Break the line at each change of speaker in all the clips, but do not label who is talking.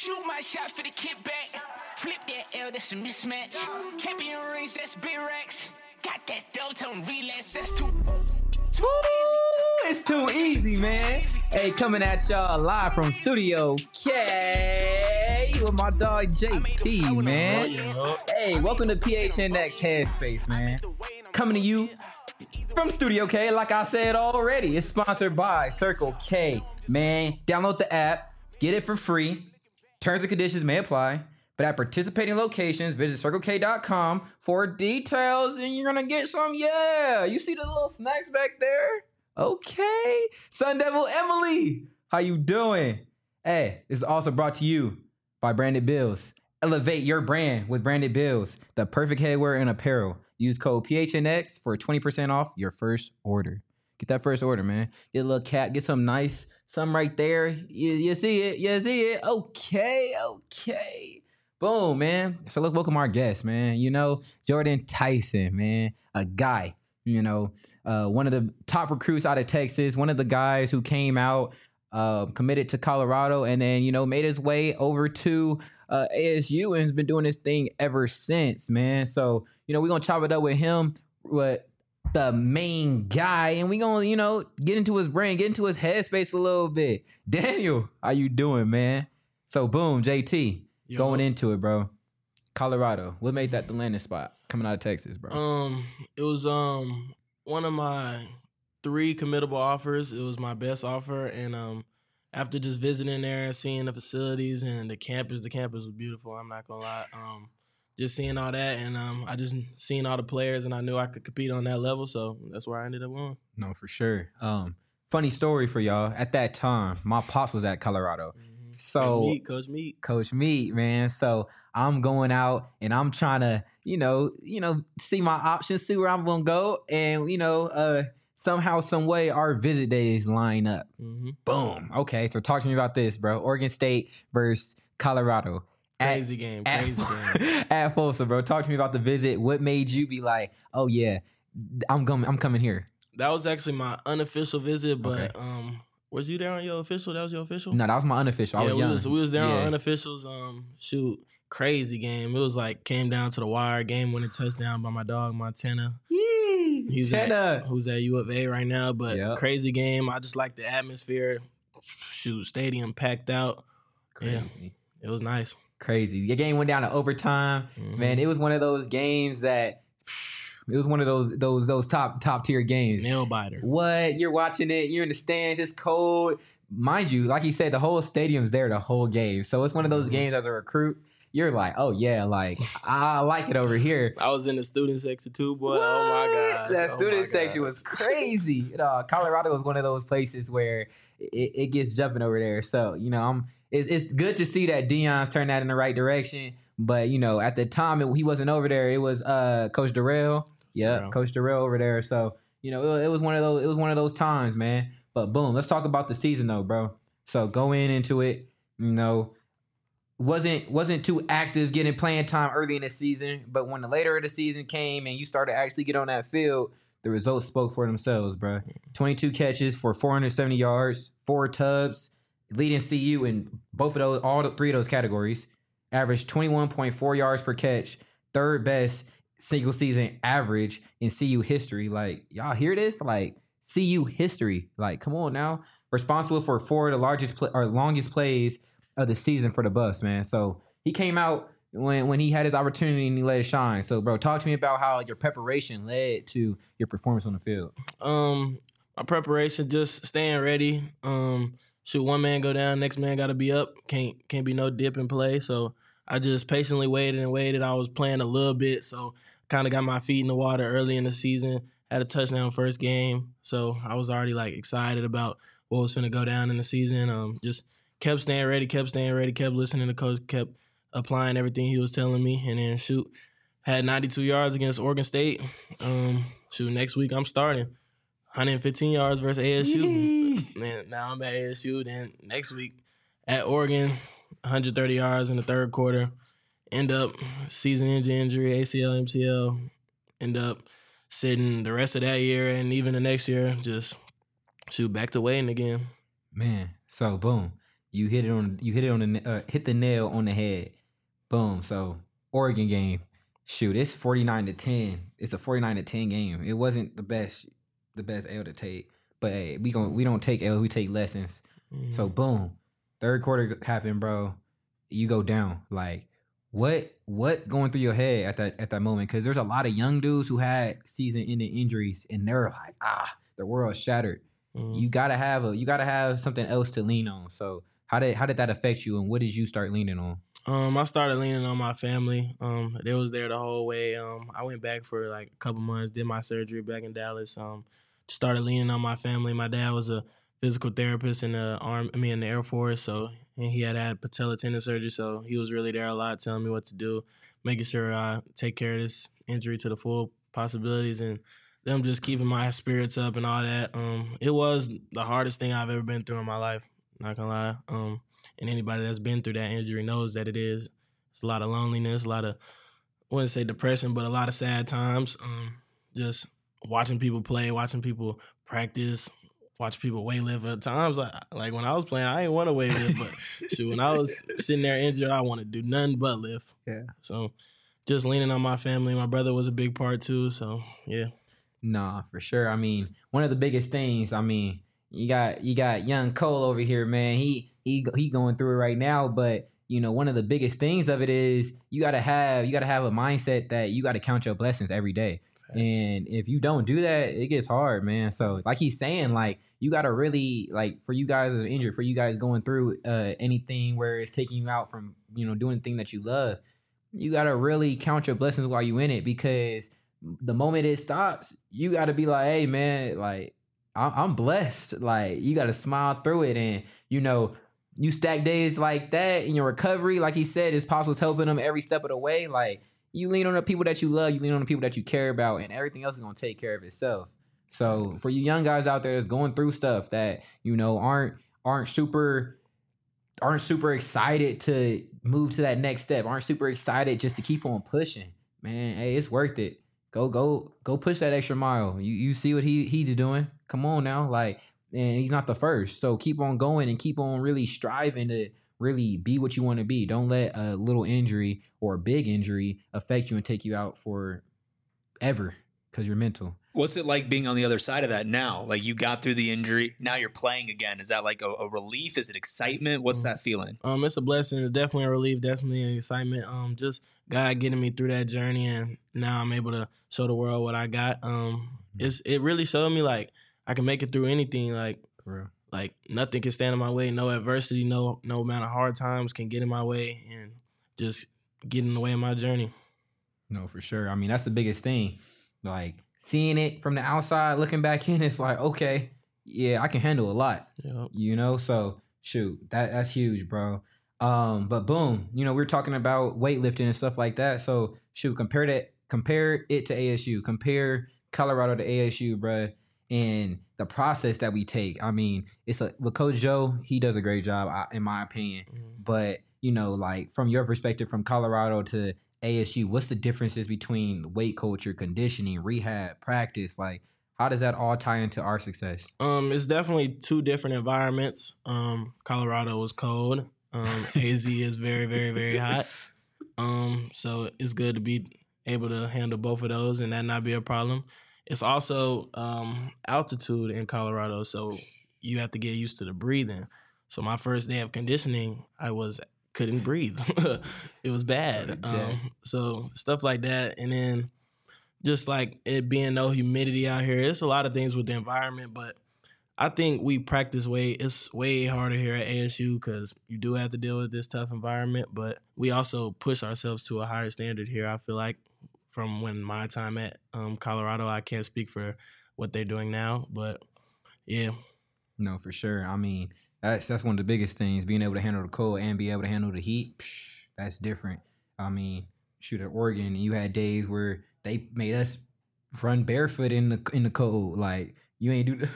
Shoot my shot for the kickback. Flip that L, that's a mismatch. Champion rings, that's big racks. Got that delta on relax, that's too
Woo! It's too easy, man. Hey, coming at y'all live from Studio K with my dog JT, man. Hey, welcome to PHNX Headspace, man. Coming to you from Studio K, like I said already. It's sponsored by Circle K, man. Download the app, get it for free. Terms and conditions may apply. But at participating locations, visit CircleK.com for details, and you're gonna get some. Yeah, you see the little snacks back there? Okay, Sun Devil Emily, how you doing? Hey, this is also brought to you by Branded Bills. Elevate your brand with Branded Bills, the perfect headwear and apparel. Use code PHNX for 20% off your first order. Get that first order, man. Get a little cap, get some nice, some right there. You see it, you see it. Okay. Boom, man. So let's welcome our guest, man. You know, Jordan Tyson, man. A guy, you know, one of the top recruits out of Texas, one of the guys who came out, committed to Colorado, and then, you know, made his way over to ASU and has been doing this thing ever since, man. So, you know, we're going to chop it up with him, with the main guy, and we're going to, you know, get into his brain, get into his headspace a little bit. Daniel, how you doing, man? So, boom, JT.
Yo.
Going into it, bro. Colorado. What made that the landing spot coming out of Texas, bro?
It was one of my 3 committable offers. It was my best offer, and after just visiting there and seeing the facilities and the campus was beautiful. I'm not gonna lie. Just seeing all that, and I just seen all the players, and I knew I could compete on that level, so that's where I ended up going.
No, for sure. Funny story for y'all. At that time, my pops was at Colorado. So Coach Meat, man. So I'm going out and I'm trying to, you know, see my options, see where I'm gonna go, and somehow, some way, our visit days line up.
Mm-hmm.
Boom. Okay, so talk to me about this, bro. Oregon State versus Colorado.
Crazy game.
At Folsom, bro. Talk to me about the visit. What made you be like, oh yeah, I'm coming here?
That was actually my unofficial visit, but
Okay.
Was you there on your official? That was your official?
No, that was my unofficial. I was young.
We was there on unofficials. Crazy game. It was like came down to the wire. Game winning touchdown by my dog Montana.
Yee,
Who's at U of A right now, but crazy game. I just like the atmosphere. Stadium packed out.
Crazy.
Yeah, it was nice.
Crazy. The game went down to overtime.
Mm-hmm.
Man, it was one of those games that it was one of those top tier games.
Nail biter.
What? You're watching it, you're in the stands, it's cold. Mind you, like you said, the whole stadium's there the whole game. So it's one of those games as a recruit, you're like, oh yeah, like I like it over here.
I was in the student section too, boy.
What?
Oh my God.
That student section was crazy. Colorado was one of those places where it gets jumping over there. So, you know, it's good to see that Deion's turned that in the right direction. But, you know, at the time he wasn't over there. It was Coach Darrell. Yeah, Coach Darrell over there. So, you know, it was one of those times, man. But boom, let's talk about the season though, bro. So going into it, you know, wasn't too active getting playing time early in the season, but when the later of the season came and you started to actually get on that field, the results spoke for themselves, bro. 22 catches for 470 yards, 4 tubs, leading CU in all 3 of those categories. Averaged 21.4 yards per catch, third best single season average in CU history. Like, y'all hear this? Like, CU history. Like, come on now. Responsible for 4 of the longest plays of the season for the Buffs, man. So he came out when he had his opportunity and he let it shine. So, bro, talk to me about how your preparation led to your performance on the field.
My preparation, just staying ready. One man go down, next man got to be up. Can't be no dip in play. So I just patiently waited. I was playing a little bit, so kind of got my feet in the water early in the season. Had a touchdown first game, so I was already like excited about what was finna go down in the season. Just kept staying ready, kept listening to coach, kept applying everything he was telling me, and then had 92 yards against Oregon State. Next week I'm starting 115 yards versus ASU. And now I'm at ASU. Then next week at Oregon, 130 yards in the third quarter. End up season-ending injury, ACL, MCL. End up sitting the rest of that year and even the next year. Just back to waiting again.
Man, so boom. You hit the nail on the head. Boom. So Oregon game. Shoot, it's 49-10. It's a 49-10 game. It wasn't the best L to take. But hey, we don't take L, we take lessons. Mm-hmm. So boom. Third quarter happened, bro. You go down. Like, what going through your head at that moment? Because there's a lot of young dudes who had season-ending injuries, and they're like, their world's shattered. Mm-hmm. You gotta have something else to lean on. So how did that affect you, and what did you start leaning on?
I started leaning on my family. They was there the whole way. I went back for like a couple months, did my surgery back in Dallas. Started leaning on my family. My dad was a physical therapist in the Air Force, and he had patella tendon surgery, so he was really there a lot, telling me what to do, making sure I take care of this injury to the full possibilities, and them just keeping my spirits up and all that. It was the hardest thing I've ever been through in my life, not gonna lie. And anybody that's been through that injury knows that it is. It's a lot of loneliness, a lot of, I wouldn't say depression, but a lot of sad times. Just watching people play, watching people practice, watching people weightlift. At times, like when I was playing, I didn't want to weightlift, but shoot, when I was sitting there injured, I wanted to do nothing but lift.
Yeah.
So just leaning on my family. My brother was a big part too, so yeah.
Nah, for sure. I mean, one of the biggest things, you got young Cole over here, man. He going through it right now, but one of the biggest things of it is you gotta have a mindset that you gotta count your blessings every day. Thanks. And if you don't do that, it gets hard, man. So like he's saying, like you gotta really, like, for you guys that are injured, for you guys going through anything where it's taking you out from doing the thing that you love, you gotta really count your blessings while you in it, because the moment it stops, you gotta be like, hey man, like I'm blessed. Like you gotta smile through it, and you stack days like that in your recovery. Like he said, his pops was helping him every step of the way. Like you lean on the people that you love, you lean on the people that you care about, and everything else is gonna take care of itself. So for you young guys out there that's going through stuff that aren't super excited to move to that next step, aren't super excited just to keep on pushing, man. Hey, it's worth it. Go push that extra mile. You see what he's doing. Come on now, like, and he's not the first. So keep on going and keep on really striving to really be what you want to be. Don't let a little injury or a big injury affect you and take you out for ever because you're mental.
What's it like being on the other side of that now? Like you got through the injury, now you're playing again. Is that like a relief? Is it excitement? What's that feeling? It's
a blessing. It's definitely a relief. Definitely an excitement. Just God getting me through that journey, and now I'm able to show the world what I got. It really showed me like I can make it through anything. Like
for real.
Like nothing can stand in my way. No adversity, no amount of hard times can get in my way and just get in the way of my journey. No,
for sure. That's the biggest thing. Like seeing it from the outside, looking back in, it's like, okay, yeah, I can handle a lot. Yep. So shoot, that's huge, bro. But boom, we're talking about weightlifting and stuff like that. So shoot, compare it to ASU. Compare Colorado to ASU, bro. And the process that we take. It's with Coach Joe, he does a great job, in my opinion. Mm-hmm. But, like from your perspective, from Colorado to ASU, what's the differences between weight culture, conditioning, rehab, practice? Like, how does that all tie into our success?
It's definitely two different environments. Colorado is cold. AZ is very, very, very hot. So it's good to be able to handle both of those and that not be a problem. It's also altitude in Colorado, so you have to get used to the breathing. So my first day of conditioning, couldn't breathe. It was bad. So stuff like that. And then just like it being no humidity out here, it's a lot of things with the environment, but I think we practice it's way harder here at ASU because you do have to deal with this tough environment, but we also push ourselves to a higher standard here, I feel like. From when my time at Colorado, I can't speak for what they're doing now, but yeah.
No, for sure. That's one of the biggest things, being able to handle the cold and be able to handle the heat. That's different. Shoot, at Oregon, you had days where they made us run barefoot in the cold. Like, you ain't do that.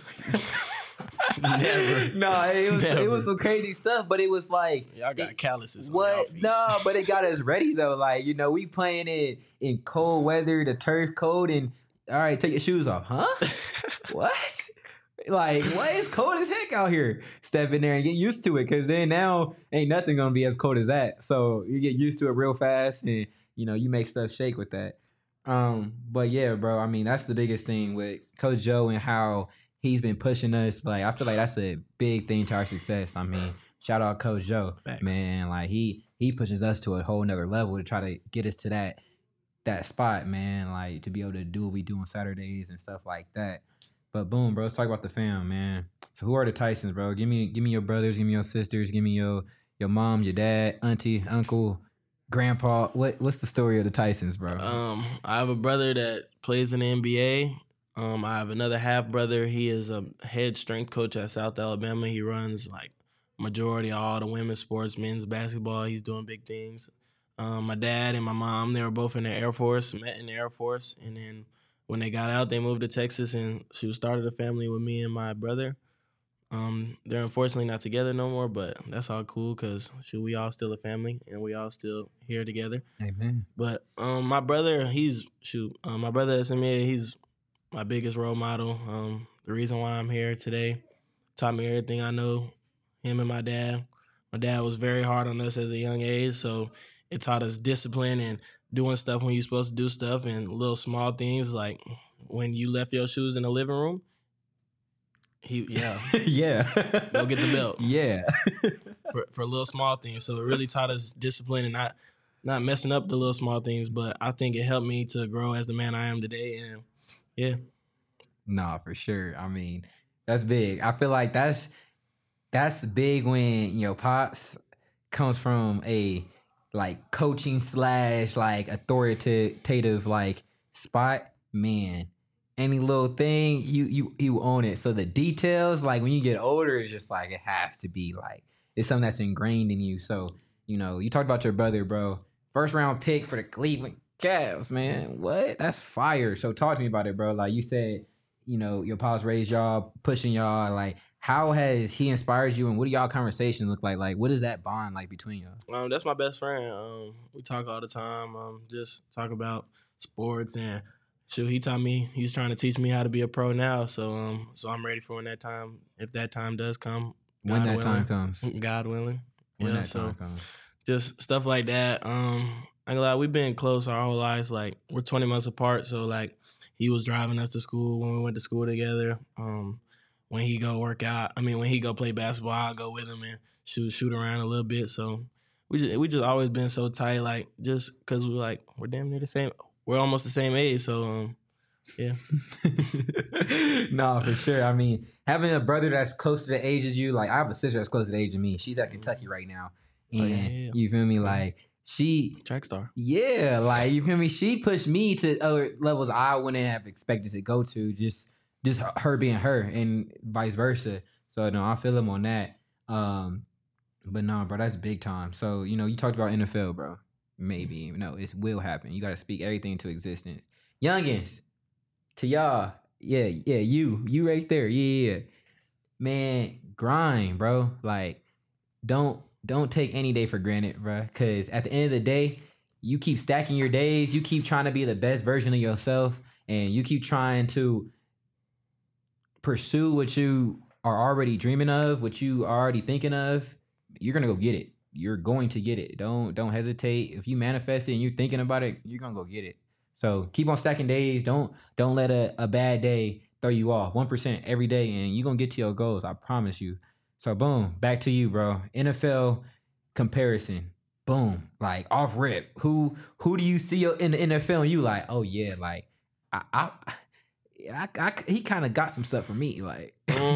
Never.
No, it was some crazy stuff, but it was like
y'all got calluses.
What? No, but it got us ready though. Like, we playing it in cold weather, the turf cold, and all right, take your shoes off, huh? What? Like, what? It's cold as heck out here. Step in there and get used to it, because then now ain't nothing gonna be as cold as that. So you get used to it real fast, and you make stuff shake with that. But yeah, bro. I mean, that's the biggest thing with Coach Joe and how he's been pushing us. Like, I feel like that's a big thing to our success. I mean, shout out Coach Joe,
Thanks.
man. Like he pushes us to a whole nother level to try to get us to that spot, man. Like to be able to do what we do on Saturdays and stuff like that. But boom, bro, let's talk about the fam, man. So who are the Tysons, bro? Give me your brothers, give me your sisters, give me your mom, your dad, auntie, uncle, grandpa. What's the story of the Tysons, bro?
I have a brother that plays in the NBA. I have another half brother. He is a head strength coach at South Alabama. He runs like majority of all the women's sports, men's basketball. He's doing big things. My dad and my mom, they were both in the Air Force, met in the Air Force, and then when they got out, they moved to Texas, and she started a family with me and my brother. They're unfortunately not together no more, but that's all cool because we all still a family, and we all still here together.
Amen.
But my brother, my brother at SMA, he's my biggest role model. The reason why I'm here today, taught me everything I know. Him and my dad. My dad was very hard on us as a young age, so it taught us discipline and doing stuff when you're supposed to do stuff, and little small things like when you left your shoes in the living room.
Yeah.
Go get the belt.
Yeah.
for little small things. So it really taught us discipline and not messing up the little small things, but I think it helped me to grow as the man I am today. And yeah.
No, for sure. I mean, that's big. I feel like that's big when your pops comes from a like coaching / like authoritative like spot. Man, any little thing you own it. So the details, like when you get older, it's just like it has to be like it's something that's ingrained in you. So you talked about your brother, bro. First round pick for the Cleveland Cavs, man. What? That's fire. So talk to me about it, bro. Like you said, your pops raised y'all, pushing y'all. Like, how has he inspired you, and what do y'all conversations look like? Like, what is that bond like between y'all?
That's my best friend. We talk all the time. Just talk about sports, and he taught me. He's trying to teach me how to be a pro now. So I'm ready for when that time, if that time does come.
When that time comes,
God willing.
When that time comes,
just stuff like that. I'm glad we've been close our whole lives. Like we're 20 months apart, so like he was driving us to school when we went to school together. When he go work out, when he go play basketball, I'll go with him and shoot around a little bit. So we just always been so tight, like just because we're damn near the same. We're almost the same age, so yeah.
No, for sure. I mean, having a brother that's close to the age as you, like I have a sister that's close to the age of me. She's at Kentucky right now, and you feel me, like. She
track star.
Yeah, like you feel me? She pushed me to other levels I wouldn't have expected to go to, just her being her and vice versa. So no, I feel him on that. But no, bro, that's big time. So, you talked about NFL, bro. Maybe. No, it will happen. You gotta speak everything into existence. Youngins, to y'all, yeah, you right there. Yeah. Man, grind, bro. Like, don't take any day for granted, bro. Because at the end of the day, you keep stacking your days. You keep trying to be the best version of yourself. And you keep trying to pursue what you are already dreaming of, what you are already thinking of. You're going to go get it. You're going to get it. Don't hesitate. If you manifest it and you're thinking about it, you're going to go get it. So keep on stacking days. Don't let a bad day throw you off. 1% every day, and you're going to get to your goals. I promise you. So boom, back to you, bro. NFL comparison. Boom. Like off rip. Who do you see in the NFL and you like, oh yeah, like he kind of got some stuff for me. Like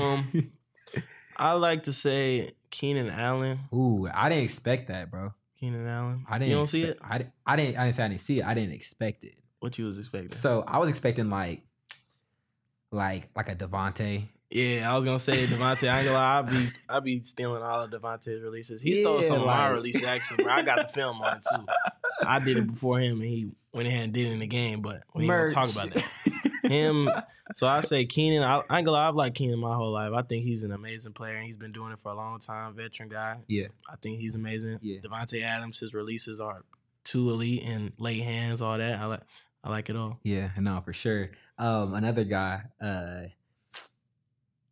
I like to say Keenan Allen.
Ooh, I didn't expect that, bro.
Keenan Allen.
You don't see it? I didn't say I didn't see it. I didn't expect it.
What you was expecting?
So I was expecting like a Devontae.
Yeah, I was gonna say Devontae. I ain't gonna lie, I be stealing all of Devontae's releases. He stole some of my releases actually, bro. I got the film on it too. I did it before him, and he went ahead and did it in the game. But we ain't gonna talk about that. Him. So I say Keenan. I ain't gonna lie, I've liked Keenan my whole life. I think he's an amazing player, and he's been doing it for a long time. Veteran guy.
Yeah,
I think he's amazing.
Yeah.
Devontae Adams, his releases are too elite and lay hands, all that. I like it all.
Yeah, no, for sure. Another guy.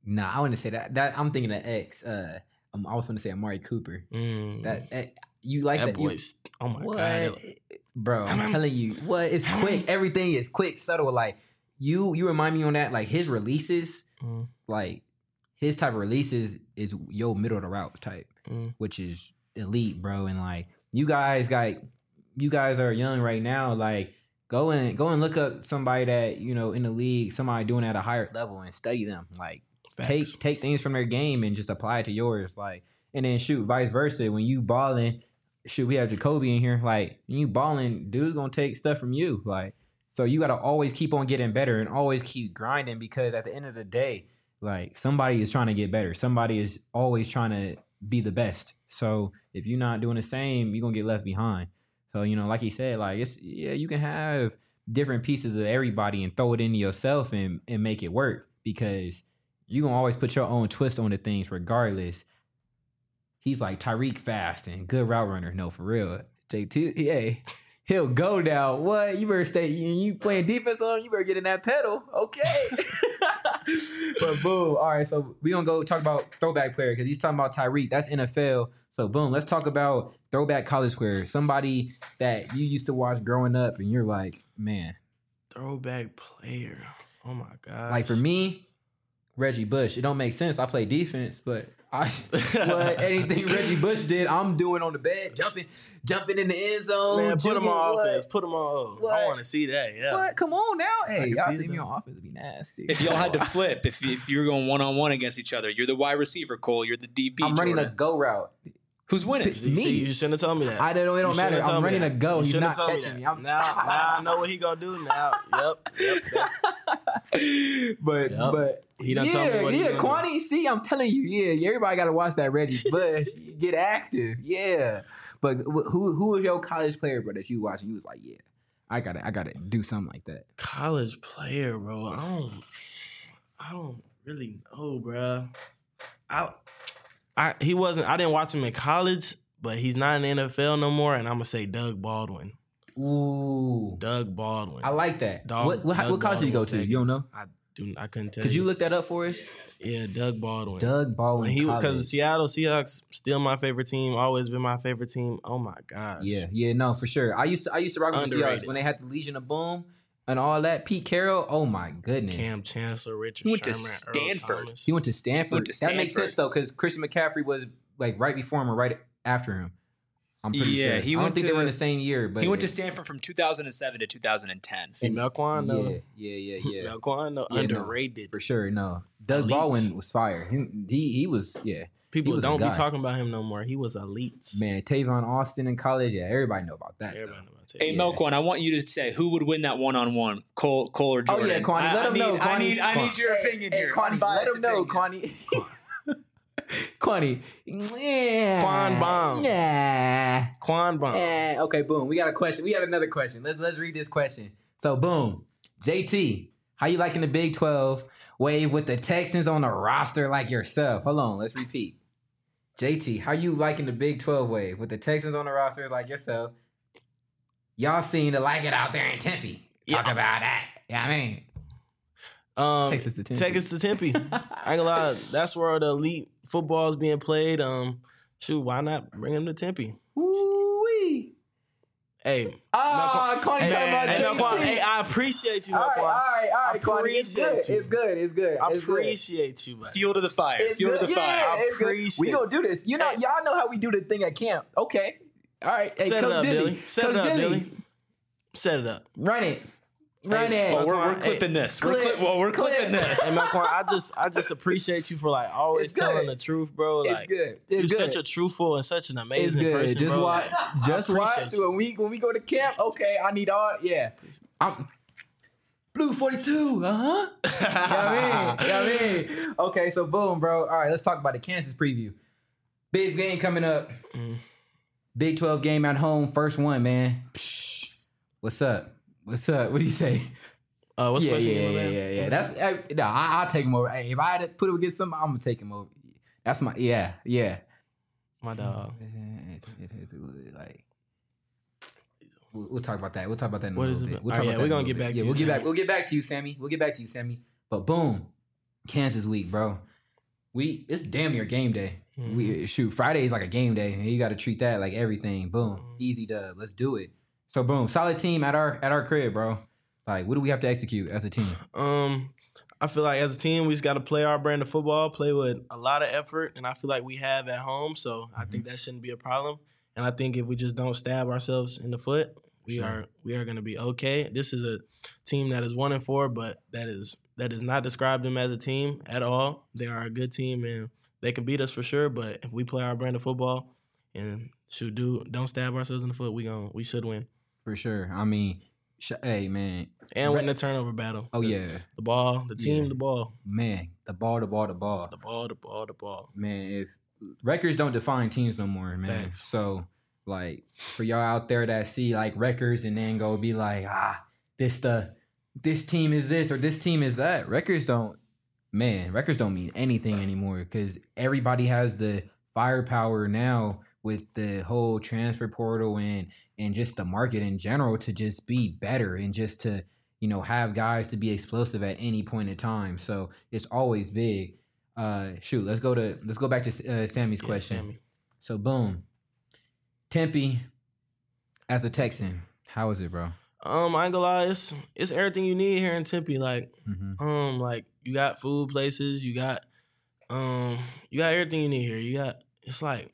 Nah, I wouldn't say that. That I'm thinking of X. I was going to say Amari Cooper. That you like that?
Boy's, oh my
what?
God.
Bro, I'm telling you, what? It's quick. Everything is quick, subtle. Like you remind me on that. Like his releases, like his type of releases is yo middle of the route type, which is elite, bro. And like you guys are young right now. Like go and look up somebody that in the league, somebody doing it at a higher level, and study them. Like take things from their game and just apply it to yours. Like and then shoot, vice versa. When you balling. Shoot, we have Jacoby in here. Like, when you balling, dude's gonna take stuff from you. Like, so you gotta always keep on getting better and always keep grinding because at the end of the day, like somebody is trying to get better. Somebody is always trying to be the best. So if you're not doing the same, you're gonna get left behind. So like he said, like you can have different pieces of everybody and throw it into yourself and make it work because you're gonna always put your own twist on the things regardless. He's like Tyreek fast and good route runner. No, for real. JT, hey, he'll go down. What? You better stay. You playing defense on? You better get in that pedal. Okay. But boom. All right. So we gonna go talk about throwback player because he's talking about Tyreek. That's NFL. So boom. Let's talk about throwback college player. Somebody that you used to watch growing up, and you're like, man.
Throwback player. Oh my God.
Like for me, Reggie Bush. It don't make sense. I play defense, but. Anything Reggie Bush did, I'm doing on the bed, jumping in the end zone.
Man, put him on offense. Put him on. I want to see that. Yeah.
What? Come on now. Hey, y'all see me on offense would be nasty.
If y'all had to flip, if you're going 1-on-1 against each other, you're the wide receiver, Cole. You're the DB.
I'm running a go route.
Who's winning?
Me.
See, you shouldn't have told me that.
It don't matter. I'm running a go. He's not catching me.
Now I know what he gonna do now. Yep.
But
he done told me what he
Kwani, see, I'm telling you, everybody got to watch that Reggie Bush. Get active, But who was your college player, bro, that you watched and you was like, I gotta do something like that?
College player, bro. I don't really know, bro. I didn't watch him in college, but he's not in the NFL no more, and I'm gonna say Doug Baldwin.
Ooh,
Doug Baldwin.
I like that. What college did he go to? You don't know?
I couldn't tell.
Could you look that up for us?
Yeah, Doug Baldwin.
Doug Baldwin.
Because the Seattle Seahawks still my favorite team. Always been my favorite team. Oh my gosh.
Yeah, no, for sure. I used to rock with the Seahawks when they had the Legion of Boom and all that. Pete Carroll. Oh my goodness.
Cam Chancellor, Richard
Sherman,
Earl
Stanford.
Thomas.
He went to Stanford. That makes sense though, because Christian McCaffrey was like right before him or right after him. I'm pretty sure. I don't think they were in the same year, but
he went to Stanford from 2007 to 2010.
See, Melquan, though.
Yeah.
Melquan, though, underrated.
No, for sure, no. Doug Baldwin was fire. He was,
People don't be talking about him no more. He was elite.
Man, Tavon Austin in college, everybody know about that.
Everybody know about Tavon.
Hey, Melquan, I want you to say who would win that 1-on-1, Cole or Jordan.
Oh yeah, Kwani, let him know.
I need your opinion here.
Kwani, let him know, Kwani. Kwani.
Quan Bomb.
Yeah.
Quan Bomb.
Okay, boom. We got a question. We got another question. Let's read this question. So, boom. JT, how you liking the Big 12 wave with the Texans on the roster like yourself? Hold on. Let's repeat. JT, how you liking the Big 12 wave with the Texans on the roster like yourself? Y'all seem to like it out there in Tempe. Talk about that. Yeah, I mean. Texas to Tempe.
Texas to Tempe. I ain't gonna lie, that's where the elite football is being played. Shoot, why not bring him to Tempe?
Woo-wee.
Hey.
Kwani talking about JT.
Hey, I appreciate you,
All
Kwani.
right, Kwani. It's good.
I appreciate you, man.
Fuel to the fire.
It's
Fuel
good.
to the fire.
I appreciate. We gonna do this. Y'all know how we do the thing at camp. Okay. All right. Hey,
Set it up,
Dilly.
Billy. Set it up, Billy. Set it up.
Run it.
Well, we're clipping this. We're clipping this.
Hey, Melquan, I just appreciate you for like always telling the truth, bro. Like,
it's good.
You're such a truthful and such an amazing person,
Just
bro.
watch. Just watch. When we go to camp, okay, I need all. Yeah. I'm Blue 42. Uh-huh. You know what I mean? Okay, so boom, bro. All right, let's talk about the Kansas preview. Big game coming up. Big 12 game at home. First one, man. Psh, what's up? What do you say?
What's question?
Yeah. That's I'll take him over. Hey, if I had to put it against somebody, I'm gonna take him over. That's my
My dog.
Like we'll talk about that. We'll talk about that in a
What
little
is it?
bit. We'll talk about that.
We're gonna get back to you.
We'll get back to you, Sammy. But boom, Kansas week, bro. it's damn near game day.
Mm-hmm.
Friday is like a game day, and you got to treat that like everything. Boom, easy dub. Let's do it. So boom, solid team at our crib, bro. Like, what do we have to execute as a team?
I feel like as a team, we just got to play our brand of football, play with a lot of effort, and I feel like we have at home. So I think that shouldn't be a problem. And I think if we just don't stab ourselves in the foot, we are going to be okay. This is a team that is 1-4, but that is not describe them as a team at all. They are a good team and they can beat us for sure. But if we play our brand of football and don't stab ourselves in the foot, we should win
for sure. I mean, hey man,
and win the turnover battle.
Oh yeah,
the ball, the team, the ball.
Man, the ball. Man, if records don't define teams no more, man.
Thanks.
So like for y'all out there that see like records and then go be like, this team is this or this team is that. Records don't mean anything anymore because everybody has the firepower now with the whole transfer portal and just the market in general to just be better and just to, have guys to be explosive at any point in time. So it's always big. Let's go back to Sammy's question.
Sammy.
So boom. Tempe as a Texan, how is it, bro?
I ain't gonna lie, it's everything you need here in Tempe. Like, like you got food places, you got everything you need here. It's like,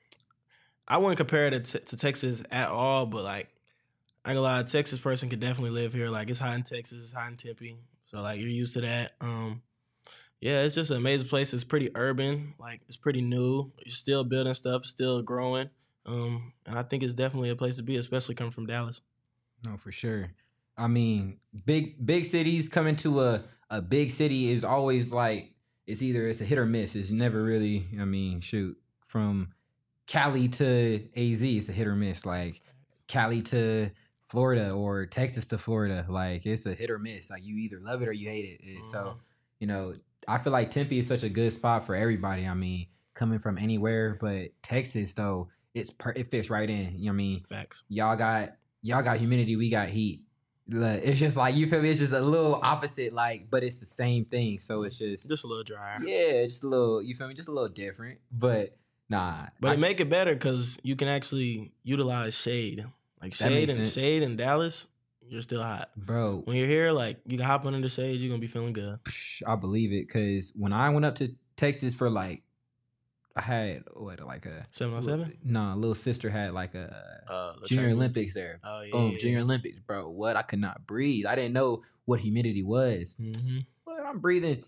I wouldn't compare it to Texas at all, but like, I ain't gonna lie, a Texas person could definitely live here. Like, it's hot in Texas, it's hot in Tempe, so like you're used to that. Yeah, it's just an amazing place. It's pretty urban, like it's pretty new. You're still building stuff, still growing. And I think it's definitely a place to be, especially coming from Dallas.
No, for sure. I mean, big cities coming to a big city is always like it's a hit or miss. It's never really. I mean, from Cali to AZ, it's a hit or miss. Like Cali to Florida or Texas to Florida, like it's a hit or miss. Like you either love it or you hate it. So, I feel like Tempe is such a good spot for everybody. I mean, coming from anywhere, but Texas though. It fits right in. You know what I mean?
Facts.
Y'all got humidity, we got heat. It's just like, you feel me? It's just a little opposite, like, but it's the same thing. So it's just
a little drier.
Yeah, just a little, you feel me? Just a little different. But nah.
But it make it better because you can actually utilize shade. Like shade in Dallas, you're still hot.
Bro.
When you're here, like you can hop under the shade, you're gonna be feeling good.
I believe it, because when I went up to Texas for like, I had like a
7-on-7.
No, little sister had like a Junior Olympics there.
Oh yeah,
boom, Junior Olympics, bro. What? I could not breathe. I didn't know what humidity was. What? I'm breathing,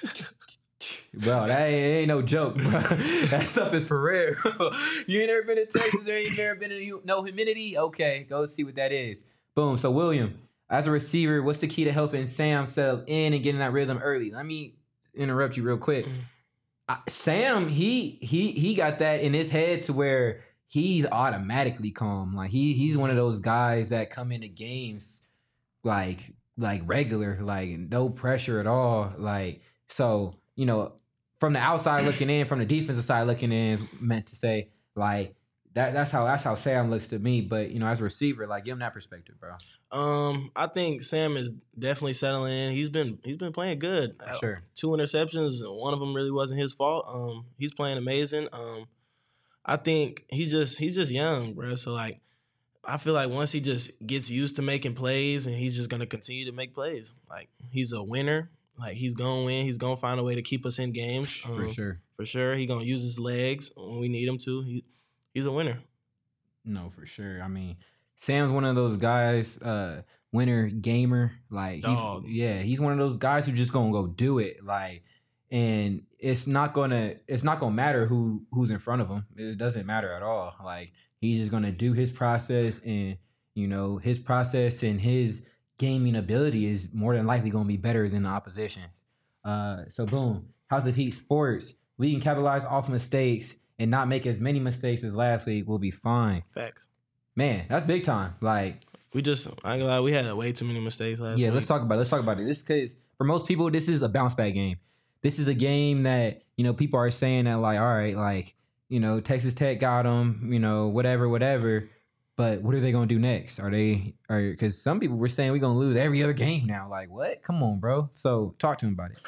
bro. That ain't no joke, bro. That stuff is for real. You ain't never been to Texas or ain't never been to no humidity? Okay, go see what that is. Boom. So William, as a receiver, what's the key to helping Sam settle in and getting that rhythm early? Let me interrupt you real quick. Sam, he got that in his head to where he's automatically calm. Like he's one of those guys that come into games like regular, like no pressure at all. Like, so, from the outside looking in, from the defensive side looking in, is meant to say like that's how Sam looks to me. But as a receiver, like give him that perspective, bro.
I think Sam is definitely settling in. He's been playing good.
For sure.
2 interceptions. One of them really wasn't his fault. He's playing amazing. I think he's just young, bro. So like, I feel like once he just gets used to making plays, and he's just gonna continue to make plays. Like he's a winner. Like he's gonna win. He's gonna find a way to keep us in games.
For sure.
For sure. He's gonna use his legs when we need him to. He's a winner.
No, for sure. I mean, Sam's one of those guys, winner gamer. Like, he's one of those guys who just gonna go do it. Like, and it's not gonna matter who's in front of him. It doesn't matter at all. Like, he's just gonna do his process, and his process and his gaming ability is more than likely gonna be better than the opposition. So boom, House of Heat Sports. We can capitalize off mistakes and not make as many mistakes as last week. We'll be fine.
Facts.
Man, that's big time. Like,
I ain't gonna lie, we had way too many mistakes last week.
Yeah, let's talk about it. This, because for most people, this is a bounce back game. This is a game that, people are saying that, like, all right, like, Texas Tech got them, whatever. But what are they going to do next? Because some people were saying we're going to lose every other game now. Like, what? Come on, bro. So talk to him about it.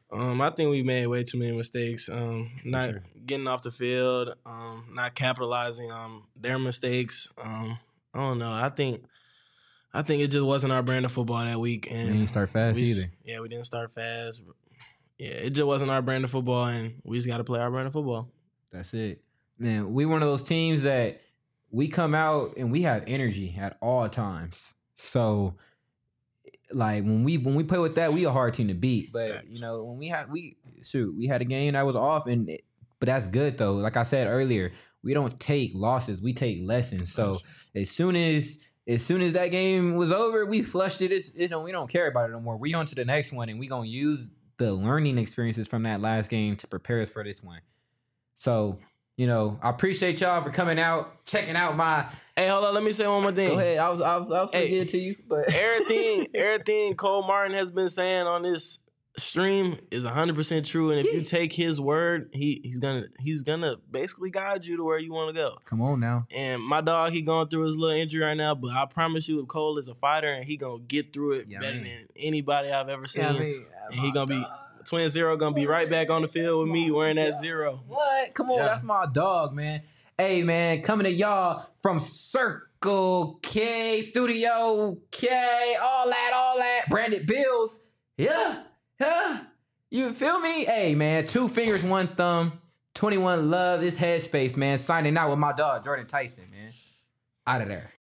I think we made way too many mistakes. Not
sure.
getting off the field, not capitalizing on their mistakes. I don't know. I think it just wasn't our brand of football that week. And
We didn't start fast either.
Yeah, we didn't start fast. Yeah, it just wasn't our brand of football, and we just got to play our brand of football.
That's it. Man, we one of those teams that we come out and we have energy at all times. So, like when we play with that, we a hard team to beat. But
Facts.
you know, when we had a game that was off, but that's good though. Like I said earlier, we don't take losses, we take lessons. So as soon as that game was over, we flushed it. We don't care about it no more. We on to the next one, and we gonna use the learning experiences from that last game to prepare us for this one. So, you know, I appreciate y'all for coming out, checking out my.
Hey, hold on. Let me say one more thing.
Go ahead. I was
Hey,
get it to you, but
everything Cole Martin has been saying on this stream is 100% true. And if you take his word, he's gonna basically guide you to where you want to go.
Come on now.
And my dog, he going through his little injury right now, but I promise you, if Cole is a fighter and he gonna get through it better than anybody I've ever seen. And he gonna be Twin Zero gonna be right back on the field with me wearing that 0.
What? Come on, that's my dog, man. Hey, man, coming to y'all from Circle K, Studio K, all that, branded bills. Yeah. You feel me? Hey, man, 2 fingers, 1 thumb, 21 love, this headspace, man. Signing out with my dog, Jordan Tyson, man. Out of there.